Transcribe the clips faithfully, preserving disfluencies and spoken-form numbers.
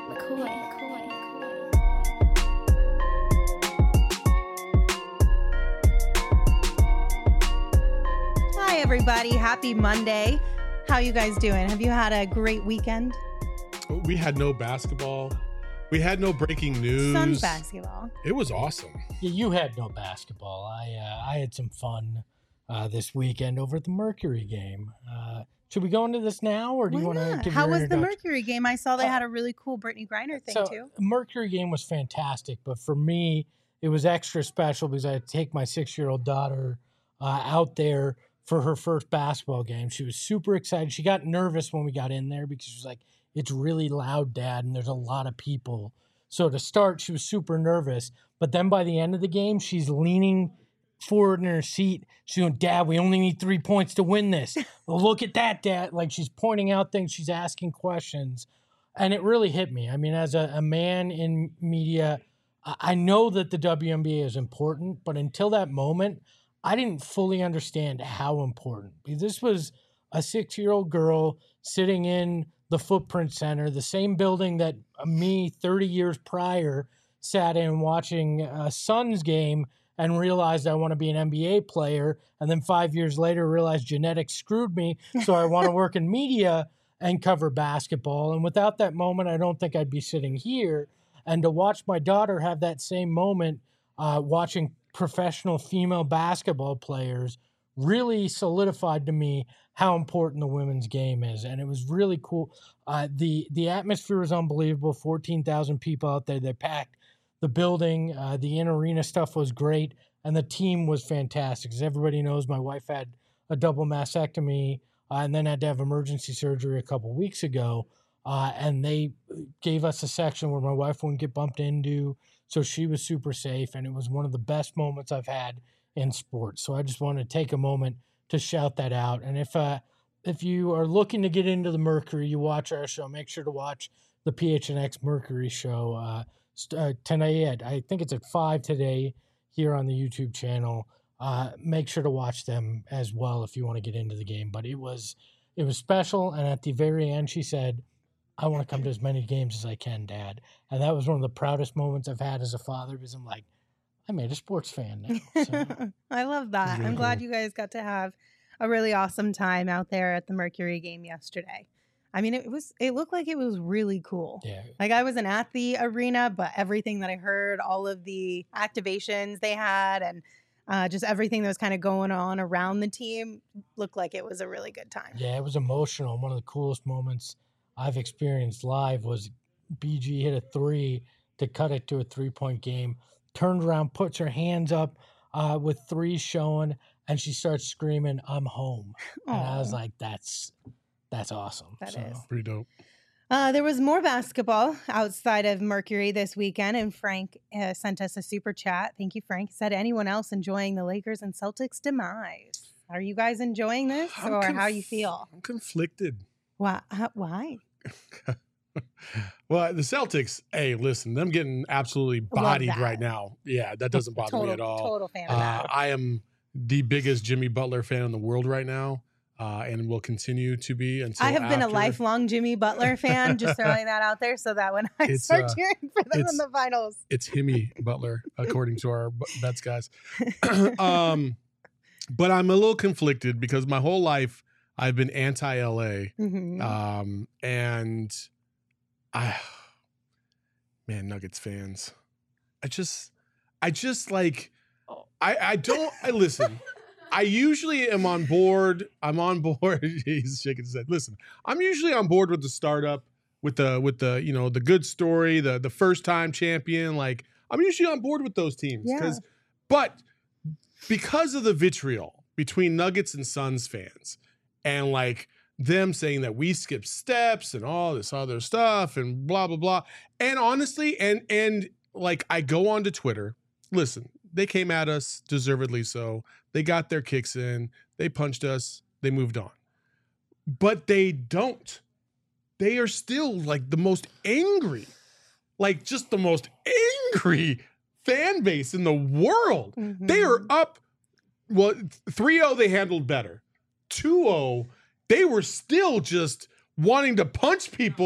McCoy, McCoy, McCoy. Hi, everybody. Happy Monday. How you guys doing? Have you had a great weekend? We had no basketball. We had no breaking news. Suns basketball. It was awesome. Yeah, you had no basketball. I uh, I had some fun uh, this weekend over at the Mercury game. Uh, should we go into this now, or do Why you want to not? give How your was the introduction? Mercury game? I saw they Uh, had a really cool Brittany Griner thing so, too. Mercury game was fantastic, but for me, it was extra special because I had to take my six-year-old daughter uh, out there for her first basketball game. She was super excited. She got nervous when we got in there because she was like, "It's really loud, Dad, and there's a lot of people." So to start, she was super nervous. But then by the end of the game, she's leaning forward in her seat. She's going, "Dad, we only need three points to win this. Well, look at that, Dad." Like, she's pointing out things. She's asking questions. And it really hit me. I mean, as a, a man in media, I, I know that the W N B A is important. But until that moment, I didn't fully understand how important. Because this was a six-year-old girl sitting in the Footprint Center, the same building that me thirty years prior sat in watching a Suns game and realized I want to be an N B A player. And then five years later realized genetics screwed me, so I want to work in media and cover basketball. And without that moment, I don't think I'd be sitting here. And to watch my daughter have that same moment uh, watching professional female basketball players really solidified to me how important the women's game is. And it was really cool. Uh, the the atmosphere was unbelievable. fourteen thousand people out there. They packed the building. Uh, the in-arena stuff was great. And the team was fantastic. As everybody knows, my wife had a double mastectomy uh, and then had to have emergency surgery a couple weeks ago. Uh, and they gave us a section where my wife wouldn't get bumped into. So she was super safe. And it was one of the best moments I've had in sports. So I just want to take a moment to shout that out. And if uh, if you are looking to get into the Mercury, you watch our show, make sure to watch the P H N X Mercury show uh, st- uh, tonight. I think it's at five today here on the YouTube channel. Uh, make sure to watch them as well if you want to get into the game. But it was it was special. And at the very end, she said, "I want to come to as many games as I can, Dad." And that was one of the proudest moments I've had as a father because I'm like, I made a sports fan now. So. I love that. Really I'm glad cool. you guys got to have a really awesome time out there at the Mercury game yesterday. I mean, it was it looked like it was really cool. Yeah. Like, I wasn't at the arena, but everything that I heard, all of the activations they had, and uh, just everything that was kind of going on around the team looked like it was a really good time. Yeah, it was emotional. One of the coolest moments I've experienced live was B G hit a three to cut it to a three-point game, turned around, puts her hands up uh, with three showing, and she starts screaming, "I'm home." And I was Aw. like, that's that's awesome. That so, is. Pretty dope. Uh, there was more basketball outside of Mercury this weekend, and Frank uh, sent us a super chat. Thank you, Frank. Said, anyone else enjoying the Lakers and Celtics demise? Are you guys enjoying this, I'm or conf- how you feel? I'm conflicted. Why? How, why? Well, the Celtics, hey, listen, them getting absolutely Love bodied that. right now. Yeah, that doesn't bother Total, me at all. total fan of Uh, that. I am the biggest Jimmy Butler fan in the world right now, uh, and will continue to be until I have been a after- lifelong Jimmy Butler fan. Just throwing that out there, so that when I It's, start uh, cheering for them in it's- the finals, It's Himmy Butler, according to our b- bets guys. um, but I'm a little conflicted because my whole life I've been anti-L A, Mhm. um, and I, man, Nuggets fans, I just, I just like, I, I don't, I listen. I usually am on board. I'm on board. He's shaking his head. Listen, I'm usually on board with the startup, with the with the you know the good story, the the first time champion. Like, I'm usually on board with those teams. Yeah. 'Cause- but because of the vitriol between Nuggets and Suns fans, and like them saying that we skip steps and all this other stuff and blah blah blah, and honestly, and and like I go onto Twitter. Listen, they came at us deservedly so. They got their kicks in. They punched us. They moved on. But they don't. They are still like the most angry, like just the most angry fan base in the world. Mhm. They are up. Well, three oh, they handled better. two oh, they were still just wanting to punch people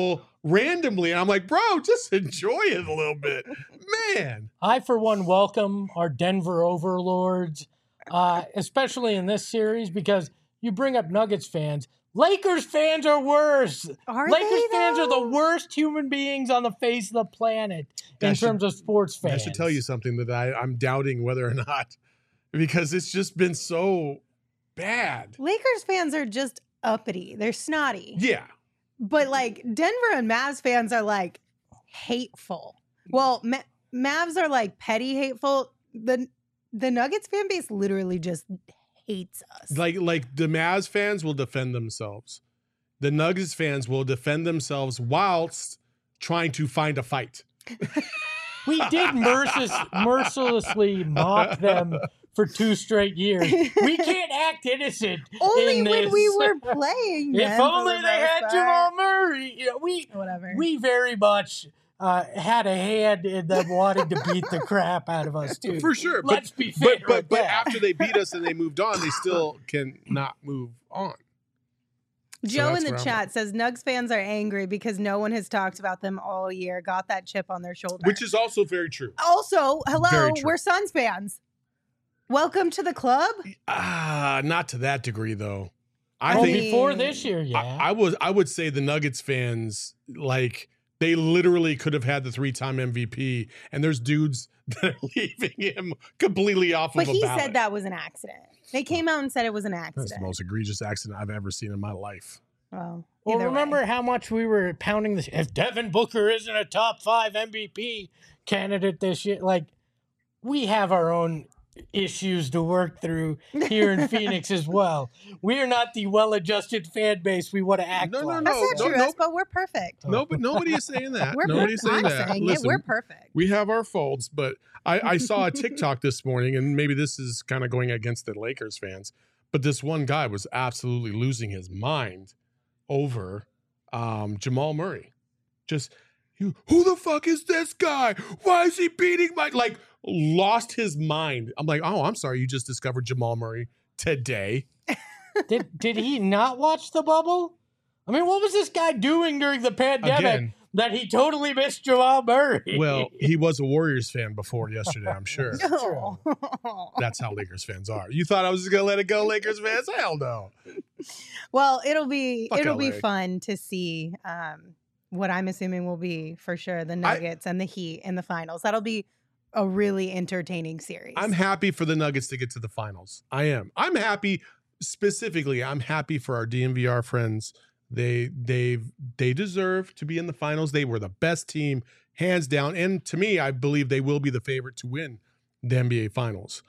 randomly. And I'm like, bro, just enjoy it a little bit. Man. I, for one, welcome our Denver overlords, uh, especially in this series, because you bring up Nuggets fans. Lakers fans are worse. Are Lakers they, fans are the though? worst human beings on the face of the planet in I should- terms of sports fans. I should tell you something that I, I'm doubting whether or not, because it's just been so bad. Lakers fans are just uppity. They're snotty. Yeah. But like Denver and Mavs fans are like hateful. Well, Ma- Mavs are like petty hateful. The the Nuggets fan base literally just hates us. Like like the Mavs fans will defend themselves. The Nuggets fans will defend themselves whilst trying to find a fight. We did merciless, mercilessly mock them for two straight years. We can't act innocent. Only in when this. we were playing. If them for only the they most had part. Jamal Murray. You know, we Whatever. we very much uh, had a hand in them wanting to beat the crap out of us too. For sure. Let's but, be but fair. but with but that. after they beat us and they moved on, they still can not move on. Joe that's in the where I'm chat says Nugs fans are angry because no one has talked about them all year. Got that chip on their shoulder. Which is also very true. also, hello, Very true. we're Suns fans. Welcome to the club. Ah, not to that degree though. I well, think before this year, yeah. I, I was I would say the Nuggets fans, like, they literally could have had the three-time M V P, and there's dudes that are leaving him completely off But of a he ballot. said that was an accident. They came out and said it was an That's the accident. most egregious accident I've ever seen in my life. Well, Well, either remember way. how much we were pounding this? If Devin Booker isn't a top five M V P candidate this year, like, we have our own issues to work through here in Phoenix as well. We are not the well-adjusted fan base we want to act No, no, like. no. That's not true, no. Espo. We're perfect. No, but nobody is saying that. We're Nobody's per- saying I'm that. saying Listen, it. We're perfect. we have our faults, but I, I saw a TikTok this morning, and maybe this is kind of going against the Lakers fans, but this one guy was absolutely losing his mind over um, Jamal Murray. Just, you, who the fuck is this guy? Why is he beating my, like, lost his mind. I'm like, oh, I'm sorry, you just discovered Jamal Murray today. Did did he not watch the bubble? I mean, what was this guy doing during the pandemic Again. that he totally missed Jamal Murray? Well, he was a Warriors fan before yesterday, I'm sure. No. That's how Lakers fans are. You thought I was just gonna let it go, Lakers fans? Hell no. Well, it'll be Fuck it'll L be A. fun to see um, what I'm assuming will be for sure the Nuggets and the Heat in the finals. That'll be a really entertaining series. I'm happy for the Nuggets to get to the finals. I am. I'm happy specifically. I'm happy for our D N V R friends. They they they deserve to be in the finals. They were the best team, hands down. And to me, I believe they will be the favorite to win the N B A finals.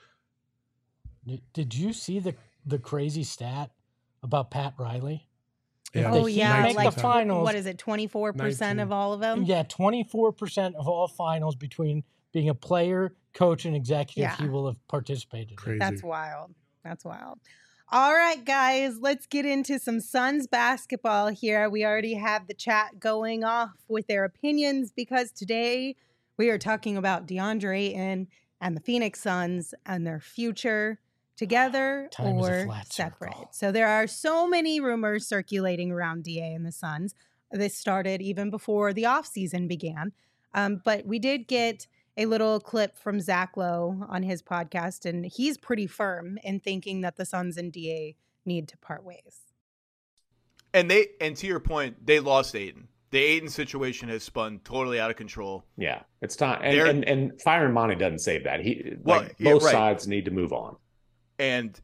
Did you see the the crazy stat about Pat Riley? Yeah, oh the Heat yeah, make the like finals- what is it? twenty-four percent of nineteen. all of them. Yeah, twenty-four percent of all finals between being a player, coach, and executive Yeah. he will have participated in. Crazy. That's wild. That's wild. All right, guys, let's get into some Suns basketball here. We already have the chat going off with their opinions because today we are talking about DeAndre Ayton and the Phoenix Suns and their future together Time is a or flat separate. circle. So there are so many rumors circulating around D A and the Suns. This started even before the offseason began. Um, but we did get a little clip from Zach Lowe on his podcast, and he's pretty firm in thinking that the Suns and D A need to part ways. And they, and to your point, they lost Ayton. The Ayton situation has spun totally out of control. Yeah, it's time. And They're- and, and firing Monty doesn't save that. He Well, like yeah, both right. sides need to move on. And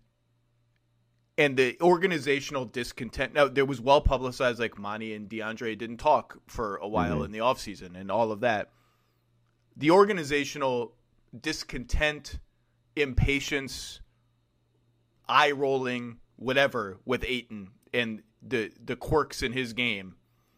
and the organizational discontent. Now, there was well publicized, like Monty and DeAndre didn't talk for a while Mhm. in the offseason and all of that. The organizational discontent, impatience, eye rolling, whatever with Ayton and the the quirks in his game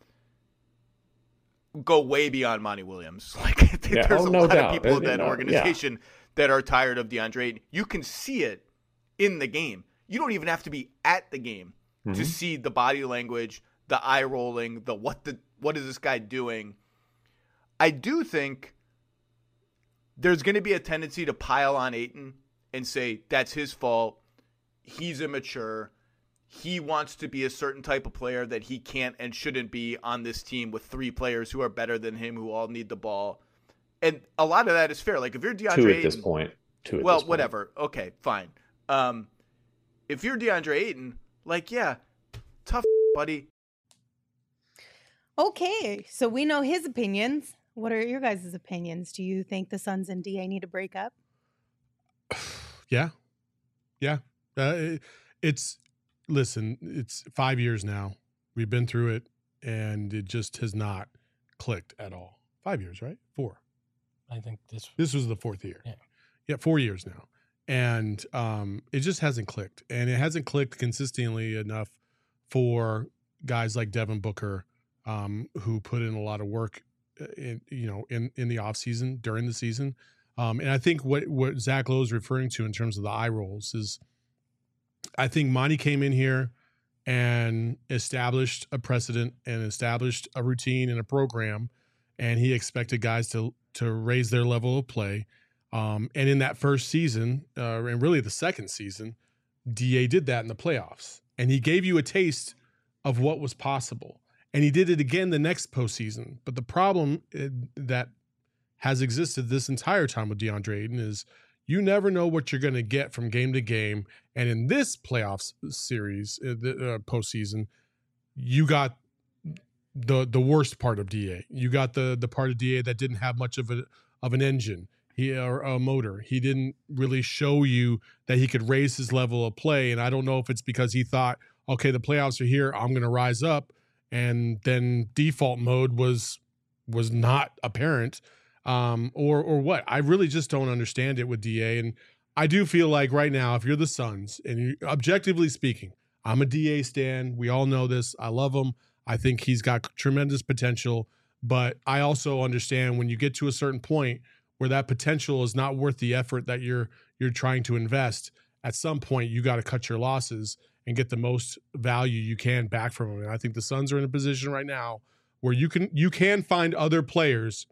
go way beyond Monty Williams. Like Yeah, there's oh, a no lot doubt. of people in Uh, that no, yeah. organization that are tired of DeAndre Ayton. You can see it in the game. You don't even have to be at the game to Mhm. see the body language, the eye rolling, the what the what is this guy doing? I do think there's going to be a tendency to pile on Ayton and say that's his fault. He's immature. he wants to be a certain type of player that he can't and shouldn't be on this team with three players who are better than him, who all need the ball. And a lot of that is fair. Like if you're DeAndre Two at Ayton, this point. Two at well, this point. whatever. Okay, fine. Um, if you're DeAndre Ayton, like, yeah, tough, buddy. Okay, so we know his opinions. What are your guys' opinions? Do you think the Suns and D A need to break up? Yeah. Yeah. Uh, it, it's, listen, it's five years now. We've been through it, and it just has not clicked at all. Five years, right? Four. I think this This was the fourth year. Yeah. Yeah, four years now. And um, it just hasn't clicked. And it hasn't clicked consistently enough for guys like Devin Booker, um, who put in a lot of work in, you know, in, in the offseason, during the season. Um, and I think what, what Zach Lowe is referring to in terms of the eye rolls is I think Monty came in here and established a precedent and established a routine and a program, and he expected guys to to raise their level of play. Um, and in that first season, uh, and really the second season, D A did that in the playoffs. And he gave you a taste of what was possible. And he did it again the next postseason. But the problem uh, that has existed this entire time with DeAndre Ayton is you never know what you're going to get from game to game. And in this playoffs series, uh, the uh, postseason, you got the the worst part of D A. You got the the part of D A that didn't have much of a of an engine, he or a motor. He didn't really show you that he could raise his level of play. And I don't know if it's because he thought, okay, the playoffs are here, I'm going to rise up, and then default mode was was not apparent, um, or or what. I really just don't understand it with D A. And I do feel like right now, if you're the Suns, and you, objectively speaking, I'm a D A stan. We all know this. I love him. I think he's got tremendous potential, but I also understand when you get to a certain point where that potential is not worth the effort that you're you're trying to invest, at some point you got to cut your losses and get the most value you can back from him. And I think the Suns are in a position right now where you can you can find other players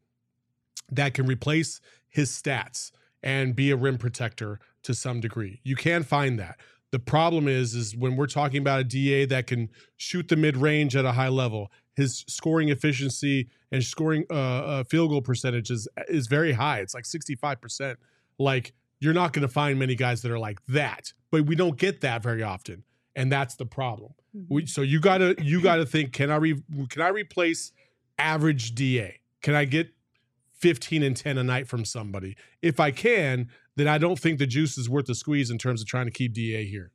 that can replace his stats and be a rim protector to some degree. You can find that. The problem is, is when we're talking about a D A that can shoot the mid-range at a high level, his scoring efficiency and scoring uh, uh, field goal percentage is, is very high. It's like sixty-five percent. Like, you're not going to find many guys that are like that, but we don't get that very often, and that's the problem. Mm-hmm. We, so you gotta you gotta think: Can I re, can I replace average D A? Can I get fifteen and ten a night from somebody? If I can, then I don't think the juice is worth the squeeze in terms of trying to keep D A here.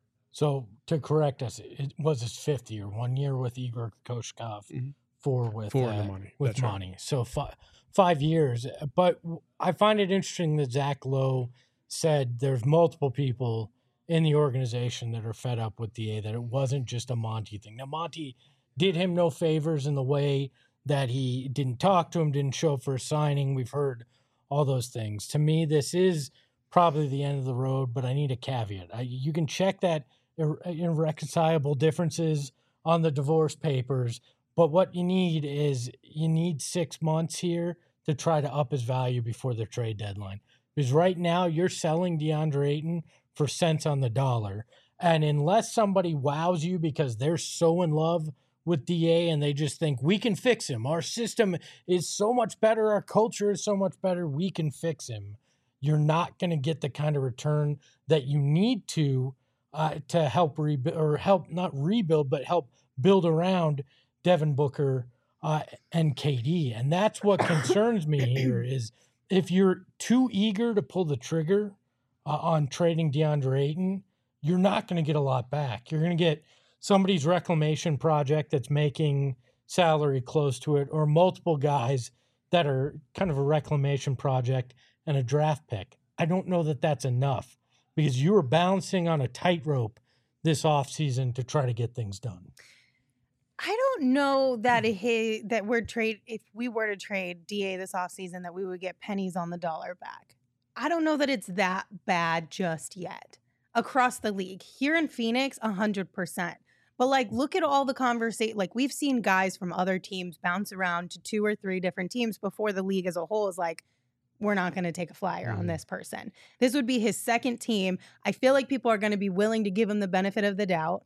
So to correct us, it was his fifth year, one year with Igor Kokoshkov, mm-hmm. four with four uh, in the money. with That's money. Right. So five five years. But I find it interesting that Zach Lowe said there's multiple people in the organization that are fed up with D A, that it wasn't just a Monty thing. Now, Monty did him no favors in the way that he didn't talk to him, didn't show up for a signing. We've heard all those things. To me, this is probably the end of the road, but I need a caveat. I, you can check that ir- irreconcilable differences on the divorce papers, but what you need is you need six months here to try to up his value before the trade deadline. Because right now you're selling DeAndre Ayton for cents on the dollar. And unless somebody wows you because they're so in love with D A and they just think we can fix him, our system is so much better, our culture is so much better, we can fix him, you're not going to get the kind of return that you need to uh, to help rebuild, or help not rebuild, but help build around Devin Booker uh, and K D. And that's what concerns me here is if you're too eager to pull the trigger uh, on trading DeAndre Ayton, you're not going to get a lot back. You're going to get somebody's reclamation project that's making salary close to it, or multiple guys that are kind of a reclamation project and a draft pick. I don't know that that's enough, because you were balancing on a tightrope this offseason to try to get things done. I don't know that he, that we're trade if we were to trade D A this offseason, that we would get pennies on the dollar back. I don't know that it's that bad just yet across the league. Here in Phoenix, one hundred percent. But, like, look at all the conversation. Like, we've seen guys from other teams bounce around to two or three different teams before the league as a whole is like, we're not going to take a flyer mm. on this person. This would be his second team. I feel like people are going to be willing to give him the benefit of the doubt.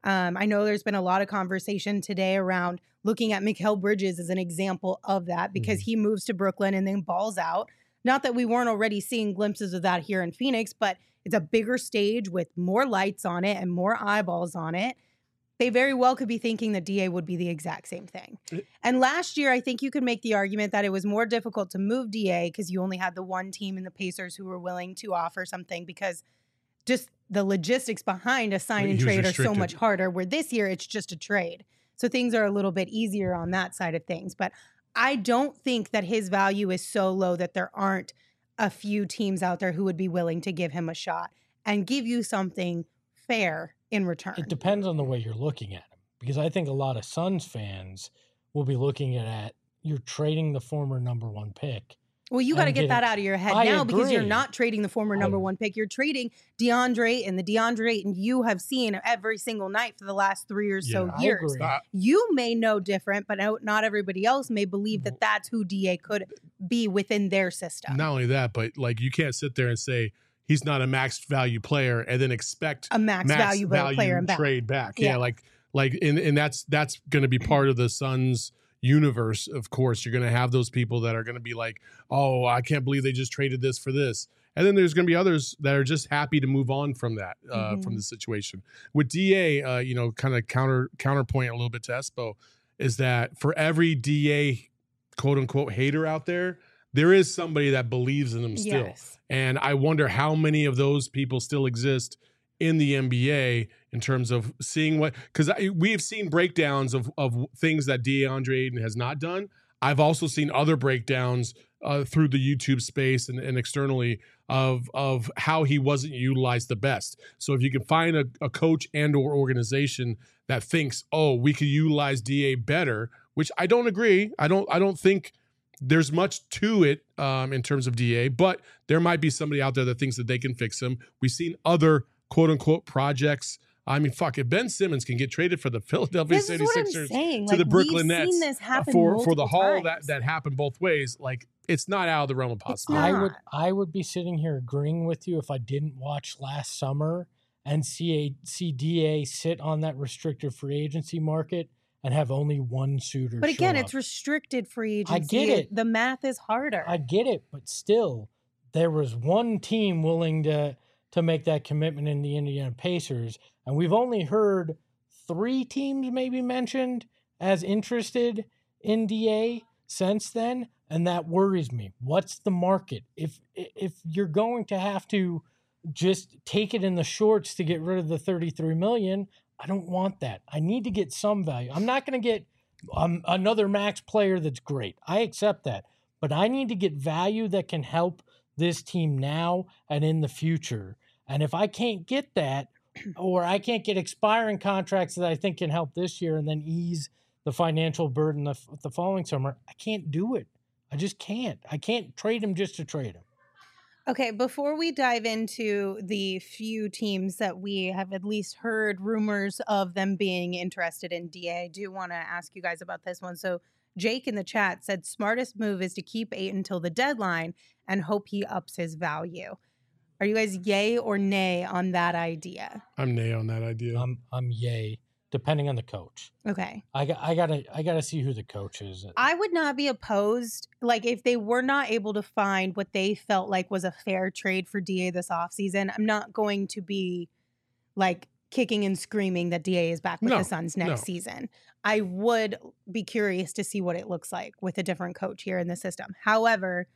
Um, I know there's been a lot of conversation today around looking at Mikal Bridges as an example of that because Mhm. he moves to Brooklyn and then balls out. Not that we weren't already seeing glimpses of that here in Phoenix, but it's a bigger stage with more lights on it and more eyeballs on it. They very well could be thinking that D A would be the exact same thing. And last year, I think you could make the argument that it was more difficult to move D A because you only had the one team in the Pacers who were willing to offer something because just the logistics behind a sign and He was trade are so restricted. much harder, where this year it's just a trade. So things are a little bit easier on that side of things. But I don't think that his value is so low that there aren't a few teams out there who would be willing to give him a shot and give you something fair in return. It depends on the way you're looking at him, because I think a lot of Suns fans will be looking at you're trading the former number one pick. Well, you got to and get getting- that out of your head I now because you're agree. not trading the former number I- one pick. You're trading DeAndre and the DeAndre and you have seen every single night for the last three or so Yeah. I years. agree. Uh, You may know different, but no- not everybody else may believe that that's who D A could be within their system. Not only that, but like you can't sit there and say he's not a max value player and then expect A max, max value, value player and back. trade back. Yeah, Yeah. like like and and that's that's going to be part of the Suns universe. Of course, you're going to have those people that are going to be like, "Oh, I can't believe they just traded this for this." And then there's going to be others that are just happy to move on from that uh, Mhm. from the situation. With D A, uh, you know, kind of counter counterpoint a little bit to Espo is that for every D A quote unquote hater out there, there is somebody that believes in him still. Yes. And I wonder how many of those people still exist in the N B A in terms of seeing what, because we have seen breakdowns of, of things that DeAndre Ayton has not done. I've also seen other breakdowns uh, through the YouTube space and, and externally of of how he wasn't utilized the best. So if you can find a, a coach and or organization that thinks, oh, we could utilize D A better, which I don't agree. I don't I don't think there's much to it um, in terms of D A, but there might be somebody out there that thinks that they can fix him. We've seen other quote unquote projects. I mean, fuck, if Ben Simmons can get traded for the Philadelphia This is what I'm seventy-sixers saying. to Like, the Brooklyn we've Nets seen this happen for, for the multiple haul that, times. that happened both ways, like it's not out of the realm of It's possibility. not. I would I would be sitting here agreeing with you if I didn't watch last summer and see a see D A sit on that restricted free agency market and have only one suitor. But again, show it's up. restricted free agency. I get it. The math is harder. I get it, but still, there was one team willing to to make that commitment in the Indiana Pacers, and we've only heard three teams maybe mentioned as interested in D A since then, and that worries me. What's the market? If if you're going to have to just take it in the shorts to get rid of the thirty-three million, I don't want that. I need to get some value. I'm not going to get um, another max player that's great. I accept that, but I need to get value that can help this team now and in the future. And if I can't get that, or I can't get expiring contracts that I think can help this year and then ease the financial burden the, the following summer, I can't do it. I just can't. I can't trade him just to trade him. Okay, before we dive into the few teams that we have at least heard rumors of them being interested in D A, I do want to ask you guys about this one. So Jake in the chat said smartest move is to keep eight until the deadline and hope he ups his value. Are you guys yay or nay on that idea? I'm nay on that idea. I'm I'm yay, depending on the coach. Okay. I got I gotta I gotta see who the coach is. I would not be opposed, like if they were not able to find what they felt like was a fair trade for D A this offseason, I'm not going to be like kicking and screaming that D A is back with No, the Suns next no. season. I would be curious to see what it looks like with a different coach here in the system. However,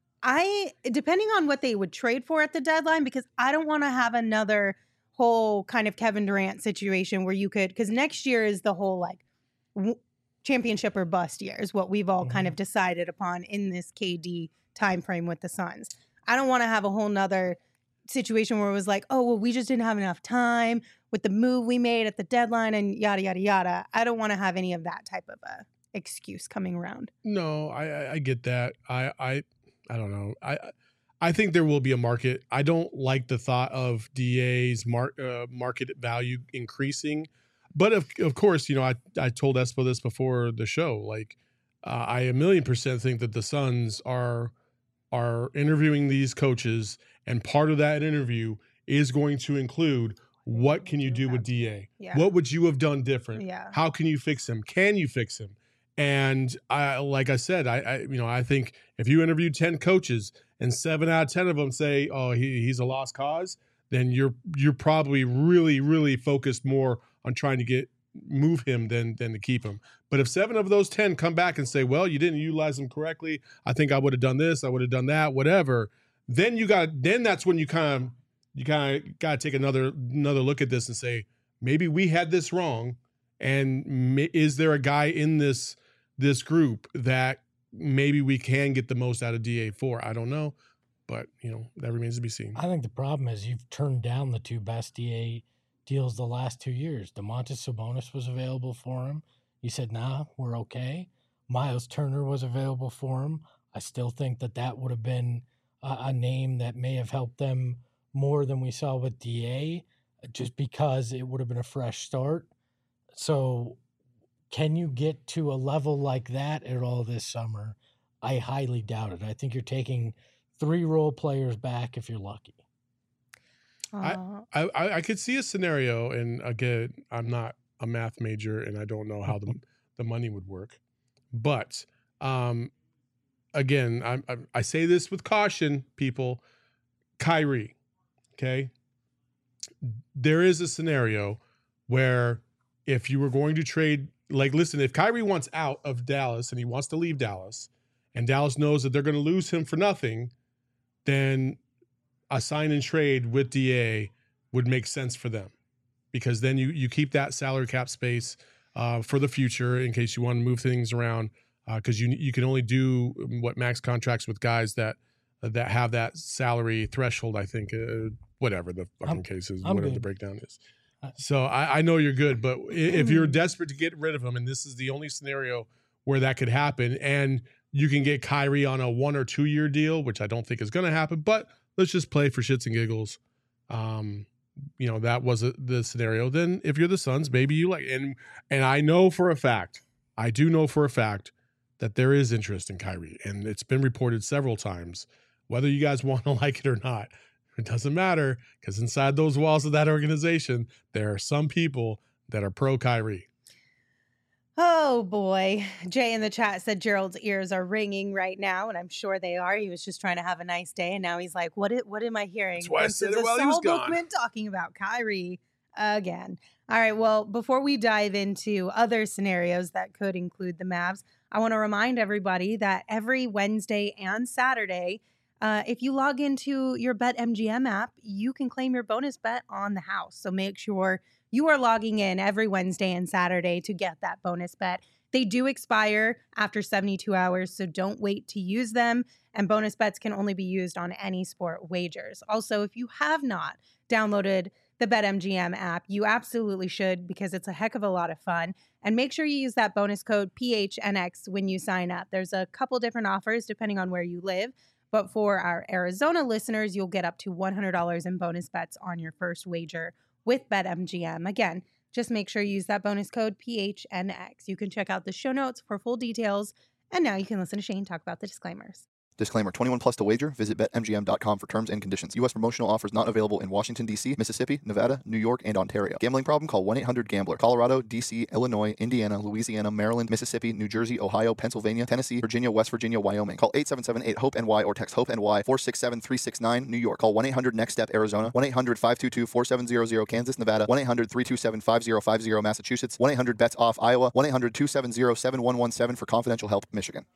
I, depending on what they would trade for at the deadline, because I don't want to have another whole kind of Kevin Durant situation where you could, because next year is the whole like w- championship or bust year is what we've all kind of decided upon in this K D timeframe with the Suns. I don't want to have a whole nother situation where it was like, oh, well, we just didn't have enough time with the move we made at the deadline and yada, yada, yada. I don't want to have any of that type of a excuse coming around. No, I, I I get that. I I I don't know. I I think there will be a market. I don't like the thought of D A's mar- uh, market value increasing, but of of course, you know, I I told Espo this before the show. Like, uh, I a million percent think that the Suns are are interviewing these coaches, and part of that interview is going to include What can you do with D A? Yeah. What would you have done different? Yeah. How can you fix him? Can you fix him? And I, like I said, I, I, you know, I think if you interview ten coaches and seven out of ten of them say, "Oh, he, he's a lost cause," then you're you're probably really, really focused more on trying to get move him than than to keep him. But if seven of those ten come back and say, "Well, you didn't utilize him correctly. I think I would have done this. I would have done that. Whatever," then you got then that's when you kind of you kind of got to take another another look at this and say, maybe we had this wrong, and ma- is there a guy in this this group that maybe we can get the most out of D A for? I don't know, but you know that remains to be seen. I think the problem is you've turned down the two best D A deals the last two years. Domantas Sabonis was available for him. You said, nah, we're okay. Miles Turner was available for him. I still think that that would have been a, a name that may have helped them more than we saw with D A, just because it would have been a fresh start. So can you get to a level like that at all this summer? I highly doubt it. I think you're taking three role players back if you're lucky. Aw. I, I I could see a scenario, and again, I'm not a math major, and I don't know how the the money would work, but um, again, I, I I say this with caution, people. Kyrie, okay, there is a scenario where if you were going to trade, like, listen, if Kyrie wants out of Dallas and he wants to leave Dallas, and Dallas knows that they're going to lose him for nothing, then a sign and trade with D A would make sense for them, because then you you keep that salary cap space uh, for the future in case you want to move things around, because uh, you you can only do what max contracts with guys that that have that salary threshold. I think uh, whatever the fucking I'm, case is, I'm whatever good. the breakdown is. So I, I know you're good, but if you're desperate to get rid of him, and this is the only scenario where that could happen, and you can get Kyrie on a one or two year deal, which I don't think is going to happen, but let's just play for shits and giggles. Um, you know, that was a, the scenario. Then if you're the Suns, maybe you like, and, and I know for a fact, I do know for a fact that there is interest in Kyrie, and it's been reported several times, whether you guys want to like it or not. It doesn't matter, because inside those walls of that organization, there are some people that are pro Kyrie. Oh boy. Jay in the chat said Gerald's ears are ringing right now, and I'm sure they are. He was just trying to have a nice day, and now he's like, what, it, what am I hearing? That's why I This said is it a while he was Saul gone. Bookman talking about Kyrie again. All right, well, before we dive into other scenarios that could include the Mavs, I want to remind everybody that every Wednesday and Saturday, uh, if you log into your BetMGM app, you can claim your bonus bet on the house. So make sure you are logging in every Wednesday and Saturday to get that bonus bet. They do expire after seventy-two hours, so don't wait to use them. And bonus bets can only be used on any sport wagers. Also, if you have not downloaded the BetMGM app, you absolutely should, because it's a heck of a lot of fun. And make sure you use that bonus code P H N X when you sign up. There's a couple different offers depending on where you live. But for our Arizona listeners, you'll get up to one hundred dollars in bonus bets on your first wager with BetMGM. Again, just make sure you use that bonus code P H N X. You can check out the show notes for full details. And now you can listen to Shane talk about the disclaimers. Disclaimer, twenty-one plus to wager. Visit bet M G M dot com for terms and conditions. U S promotional offers not available in Washington, D C, Mississippi, Nevada, New York, and Ontario. Gambling problem? Call one eight hundred gambler. Colorado, D C, Illinois, Indiana, Louisiana, Maryland, Mississippi, New Jersey, Ohio, Pennsylvania, Tennessee, Virginia, West Virginia, Wyoming. Call eight seven seven eight hope N Y or text HOPE-NY four six seven three six nine, New York. Call one eight hundred next step Arizona. one eight hundred five two two four seven zero zero, Kansas, Nevada. one eight hundred three two seven five zero five zero, Massachusetts. one eight hundred bets off, Iowa. one eight hundred two seven zero seven one one seven for confidential help, Michigan.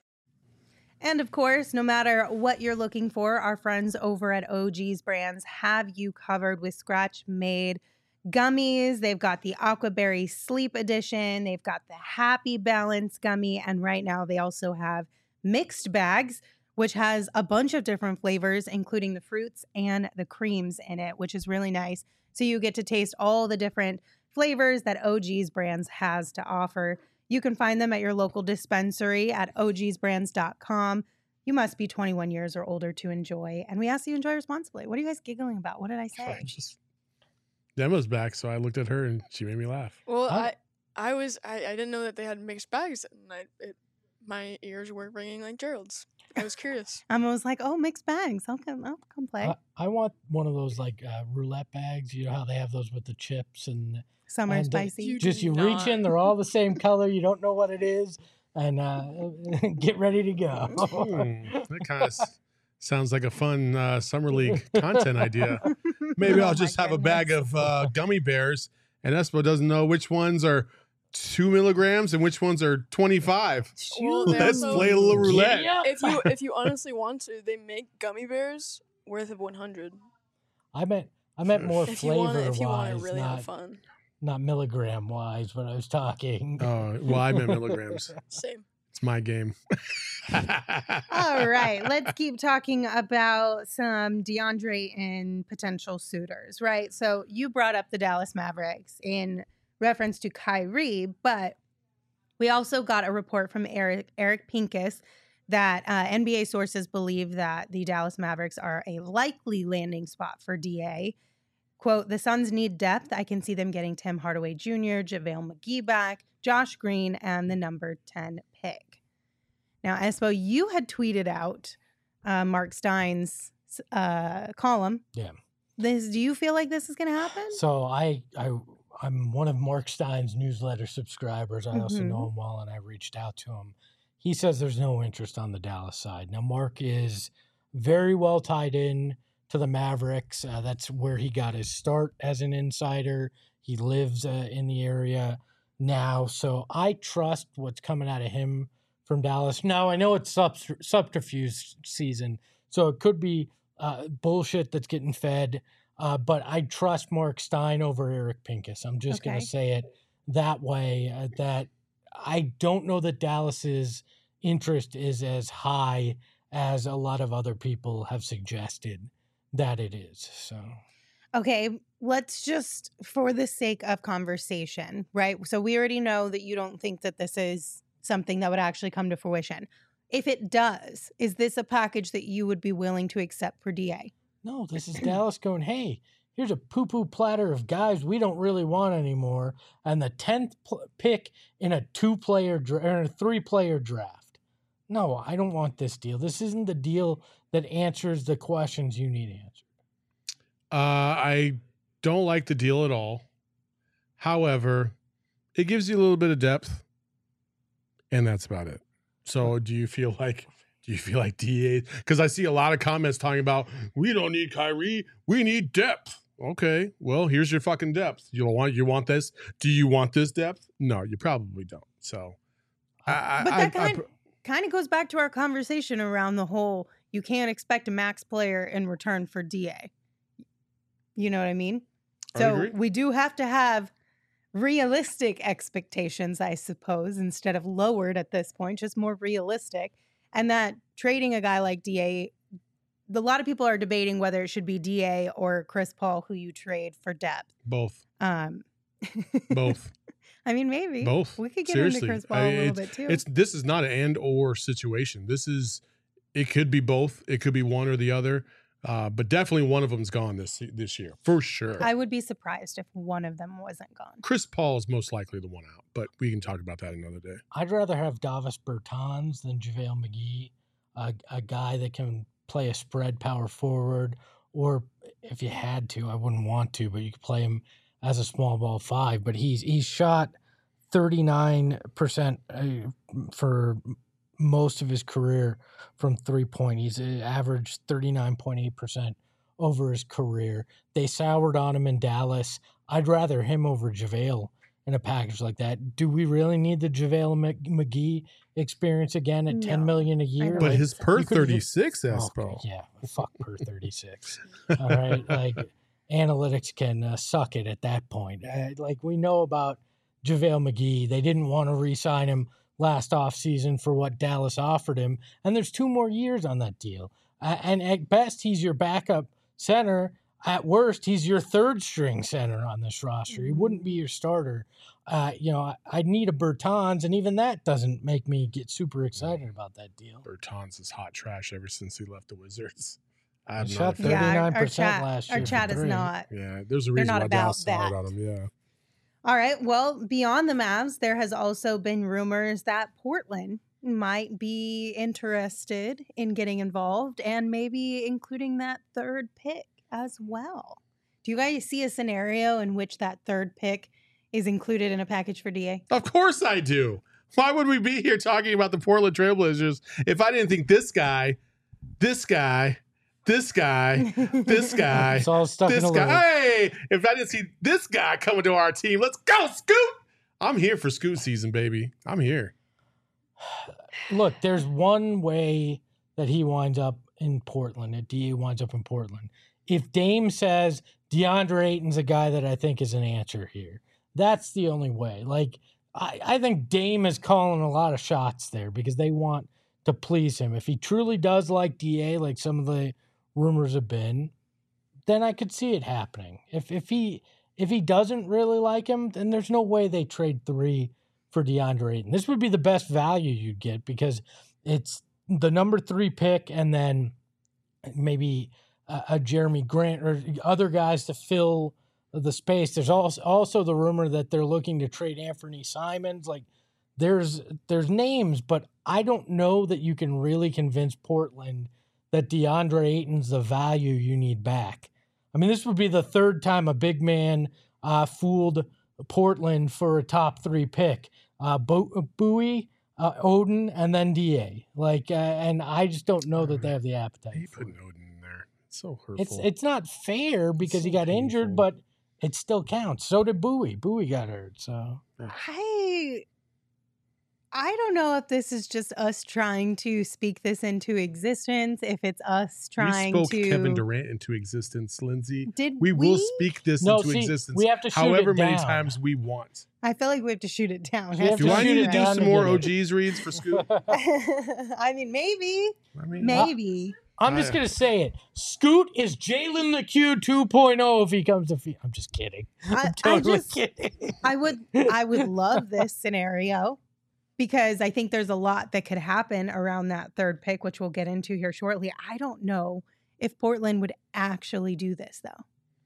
And of course, no matter what you're looking for, our friends over at O G's Brands have you covered with scratch-made gummies. They've got the Aquaberry Sleep Edition. They've got the Happy Balance gummy. And right now they also have mixed bags, which has a bunch of different flavors, including the fruits and the creams in it, which is really nice. So you get to taste all the different flavors that O G's Brands has to offer. You can find them at your local dispensary at O Gs brands dot com. You must be twenty-one years or older to enjoy. And we ask you to enjoy responsibly. What are you guys giggling about? What did I say? Just Emma's back, so I looked at her and she made me laugh. Well, Oh. I I was I, I didn't know that they had mixed bags, and I it, my ears were ringing like Gerald's. I was curious. I was like, oh, mixed bags. I'll come, I'll come play. I, I want one of those like uh, roulette bags. You know how they have those with the chips and Summer and, uh, spicy. You just do you reach in, not. they're all the same color. You don't know what it is, and uh, get ready to go. Hmm, that kind of sounds like a fun uh, summer league content idea. Maybe Oh I'll my just have a bag goodness. of uh, gummy bears, and Espo doesn't know which ones are two milligrams and which ones are twenty-five. Well, they Let's also- play a little roulette. Yeah. If you if you honestly want to, they make gummy bears worth of one hundred. I meant I meant more If you want flavor to, if you want wise, to really not have fun. not milligram wise. When I was talking. Oh, well, I meant milligrams. Same. It's my game. All right, let's keep talking about some DeAndre and potential suitors, right? So you brought up the Dallas Mavericks in reference to Kyrie, but we also got a report from Eric Eric Pincus that uh, N B A sources believe that the Dallas Mavericks are a likely landing spot for D A. Quote, the Suns need depth. I can see them getting Tim Hardaway Junior, JaVale McGee back, Josh Green, and the number ten pick. Now, Espo, you had tweeted out uh, Mark Stein's uh, column. Yeah. This, do you feel like this is going to happen? So I I I'm one of Mark Stein's newsletter subscribers. I also Mhm. know him well, and I reached out to him. He says there's no interest on the Dallas side. Now, Mark is very well tied in to the Mavericks. Uh, that's where he got his start as an insider. He lives uh, in the area now, so I trust what's coming out of him from Dallas. Now, I know it's subter- subterfuge season, so it could be uh, bullshit that's getting fed, uh, but I trust Mark Stein over Eric Pincus. I'm just going Okay. to say it that way, uh, that I don't know that Dallas's interest is as high as a lot of other people have suggested that it is. So Okay, let's just, for the sake of conversation, right? So we already know that you don't think that this is something that would actually come to fruition. If it does, is this a package that you would be willing to accept for D A? no, this is Dallas going, hey, here's a poo-poo platter of guys we don't really want anymore, and the tenth pl- pick in a two-player dra- or a three-player draft. No, I don't want this deal. This isn't the deal that answers the questions you need answered. Uh, I don't like the deal at all. However, it gives you a little bit of depth, and that's about it. So, do you feel like do you feel like D A? Because I see a lot of comments talking about we don't need Kyrie, we need depth. Okay, well, here's your fucking depth. You don't want you want this? Do you want this depth? No, you probably don't. So, I, I, But I- that I kind pr- kind of goes back to our conversation around the whole you can't expect a max player in return for D A. You know what I mean? I So agree. we do have to have realistic expectations, I suppose, instead of lowered at this point, just more realistic. And that trading a guy like D A, a lot of people are debating whether it should be D A or Chris Paul who you trade for depth. both, Um, both, I mean, maybe both. we could get Seriously. into Chris Paul I- a little it's- bit too. It's this is not an and or situation. This is it could be both. It could be one or the other. Uh, but definitely one of them's gone this this year for sure. I would be surprised if one of them wasn't gone. Chris Paul is most likely the one out, but we can talk about that another day. I'd rather have Davis Bertans than JaVale McGee, a, a guy that can play a spread power forward, or if you had to, I wouldn't want to, but you could play him as a small ball five. But he's he's shot thirty-nine percent for most of his career from three point. He's uh, averaged thirty-nine point eight percent over his career. They soured on him in Dallas. I'd rather him over JaVale in a package like that. Do we really need the JaVale Mc- McGee experience again at ten No, million a year? don't But think his so. per You could- thirty-six, Oh, Espo. yeah, fuck per thirty-six. All right, like analytics can uh, suck it at that point. Uh, like we know about JaVale McGee, they didn't want to re-sign him last offseason for what Dallas offered him, and there's two more years on that deal. Uh, and at best, he's your backup center. At worst, he's your third string center on this roster. He wouldn't be your starter. Uh, you know, I, I'd need a Bertans, and even that doesn't make me get super excited about that deal. Bertans is hot trash ever since he left the Wizards. I He have shot not. thirty- Yeah, our, our thirty-nine percent chat, last our year for chat is three. not. Yeah, there's a They're reason not why about Dallas is hard that. on him. Yeah, All right. Well, beyond the Mavs, there has also been rumors that Portland might be interested in getting involved and maybe including that third pick as well. Do you guys see a scenario in which that third pick is included in a package for D A? Of course I do. Why would we be here talking about the Portland Trailblazers if I didn't think this guy, this guy, this guy, this guy, It's all stuck this in a guy, loop. hey, if I didn't see this guy coming to our team, let's go, Scoot. I'm here for Scoot season, baby. I'm here. Look, there's one way that he winds up in Portland, that D A winds up in Portland. If Dame says DeAndre Ayton's a guy that I think is an answer here, that's the only way. Like, I, I think Dame is calling a lot of shots there because they want to please him. If he truly does like D A, like some of the rumors have been, then I could see it happening. If if he if he doesn't really like him, then there's no way they trade three for DeAndre Ayton. This would be the best value you'd get because it's the number three pick and then maybe a, a Jeremy Grant or other guys to fill the space. There's also also the rumor that they're looking to trade Anthony Simons. Like there's there's names, but I don't know that you can really convince Portland that DeAndre Ayton's the value you need back. I mean, this would be the third time a big man uh, fooled Portland for a top three pick. Uh, Bo- Bowie, uh, Odin, and then D A. Like, uh, and I just don't know that they have the appetite. He for put it. Odin in there. It's so hurtful. It's it's not fair because so he got injured, painful. but it still counts. So did Bowie. Bowie got hurt. So I I don't know if this is just us trying to speak this into existence, if it's us trying we spoke to Kevin Durant into existence, Lindsay. Did We we? will speak this No, into see, existence we have to shoot however it many down. times we want. I feel like we have to shoot it down. We have Do to I shoot need it to do down some to more get O it. Gs reads for Scoot? I mean, maybe, I mean, maybe. I'm just I- gonna say it. Scoot is Jalen the Q two point oh if he comes to. Fe- I'm just kidding. I, I'm I totally just, kidding. I would, I would love this scenario because I think there's a lot that could happen around that third pick, which we'll get into here shortly. I don't know if Portland would actually do this though.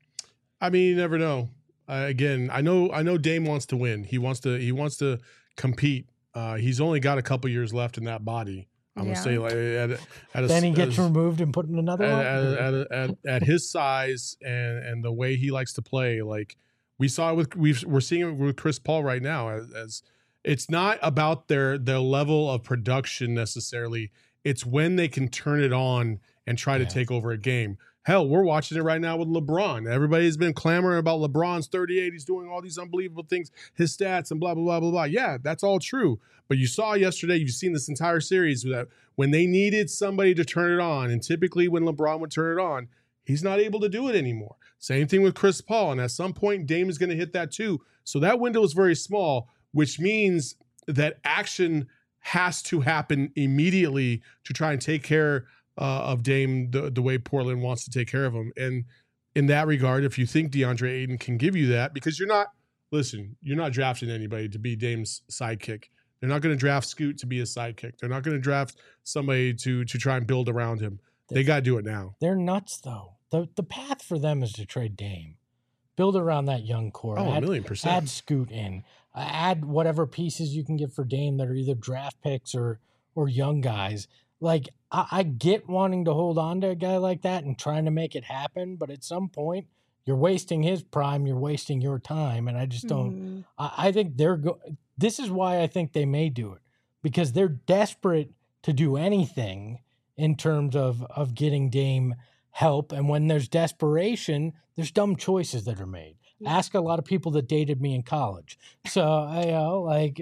I mean, you never know. Uh, again, I know, I know Dame wants to win. He wants to, he wants to compete. Uh, he's only got a couple years left in that body. I'm Yeah. gonna say, like, at, a- at a, Then he gets at, removed and put in another at, one. at, at, at, at his size and and the way he likes to play. Like we saw it with, we've, we're seeing it with Chris Paul right now. As, as it's not about their their level of production necessarily. It's when they can turn it on and try to Yeah. take over a game. Hell, we're watching it right now with LeBron. Everybody's been clamoring about LeBron's thirty-eight. He's doing all these unbelievable things, his stats and blah, blah, blah, blah, blah. Yeah, that's all true. But you saw yesterday, you've seen this entire series that when they needed somebody to turn it on, and typically when LeBron would turn it on, he's not able to do it anymore. Same thing with Chris Paul. And at some point, Dame is going to hit that too. So that window is very small, which means that action has to happen immediately to try and take care Uh, of Dame the, the way Portland wants to take care of him. And in that regard, if you think DeAndre Ayton can give you that, because you're not, listen, you're not drafting anybody to be Dame's sidekick. They're not going to draft Scoot to be a sidekick. They're not going to draft somebody to to try and build around him. They got to do it now. They're nuts, though. The the path for them is to trade Dame, build around that young core, Oh, a add, million percent. add Scoot in, uh, add whatever pieces you can get for Dame that are either draft picks or or young guys. Like I, I get wanting to hold on to a guy like that and trying to make it happen, but at some point you're wasting his prime, you're wasting your time, and I just don't. Mm. I, I think they're go. This is why I think they may do it because they're desperate to do anything in terms of of getting Dame help. And when there's desperation, there's dumb choices that are made. Yeah. Ask a lot of people that dated me in college. So you know, like,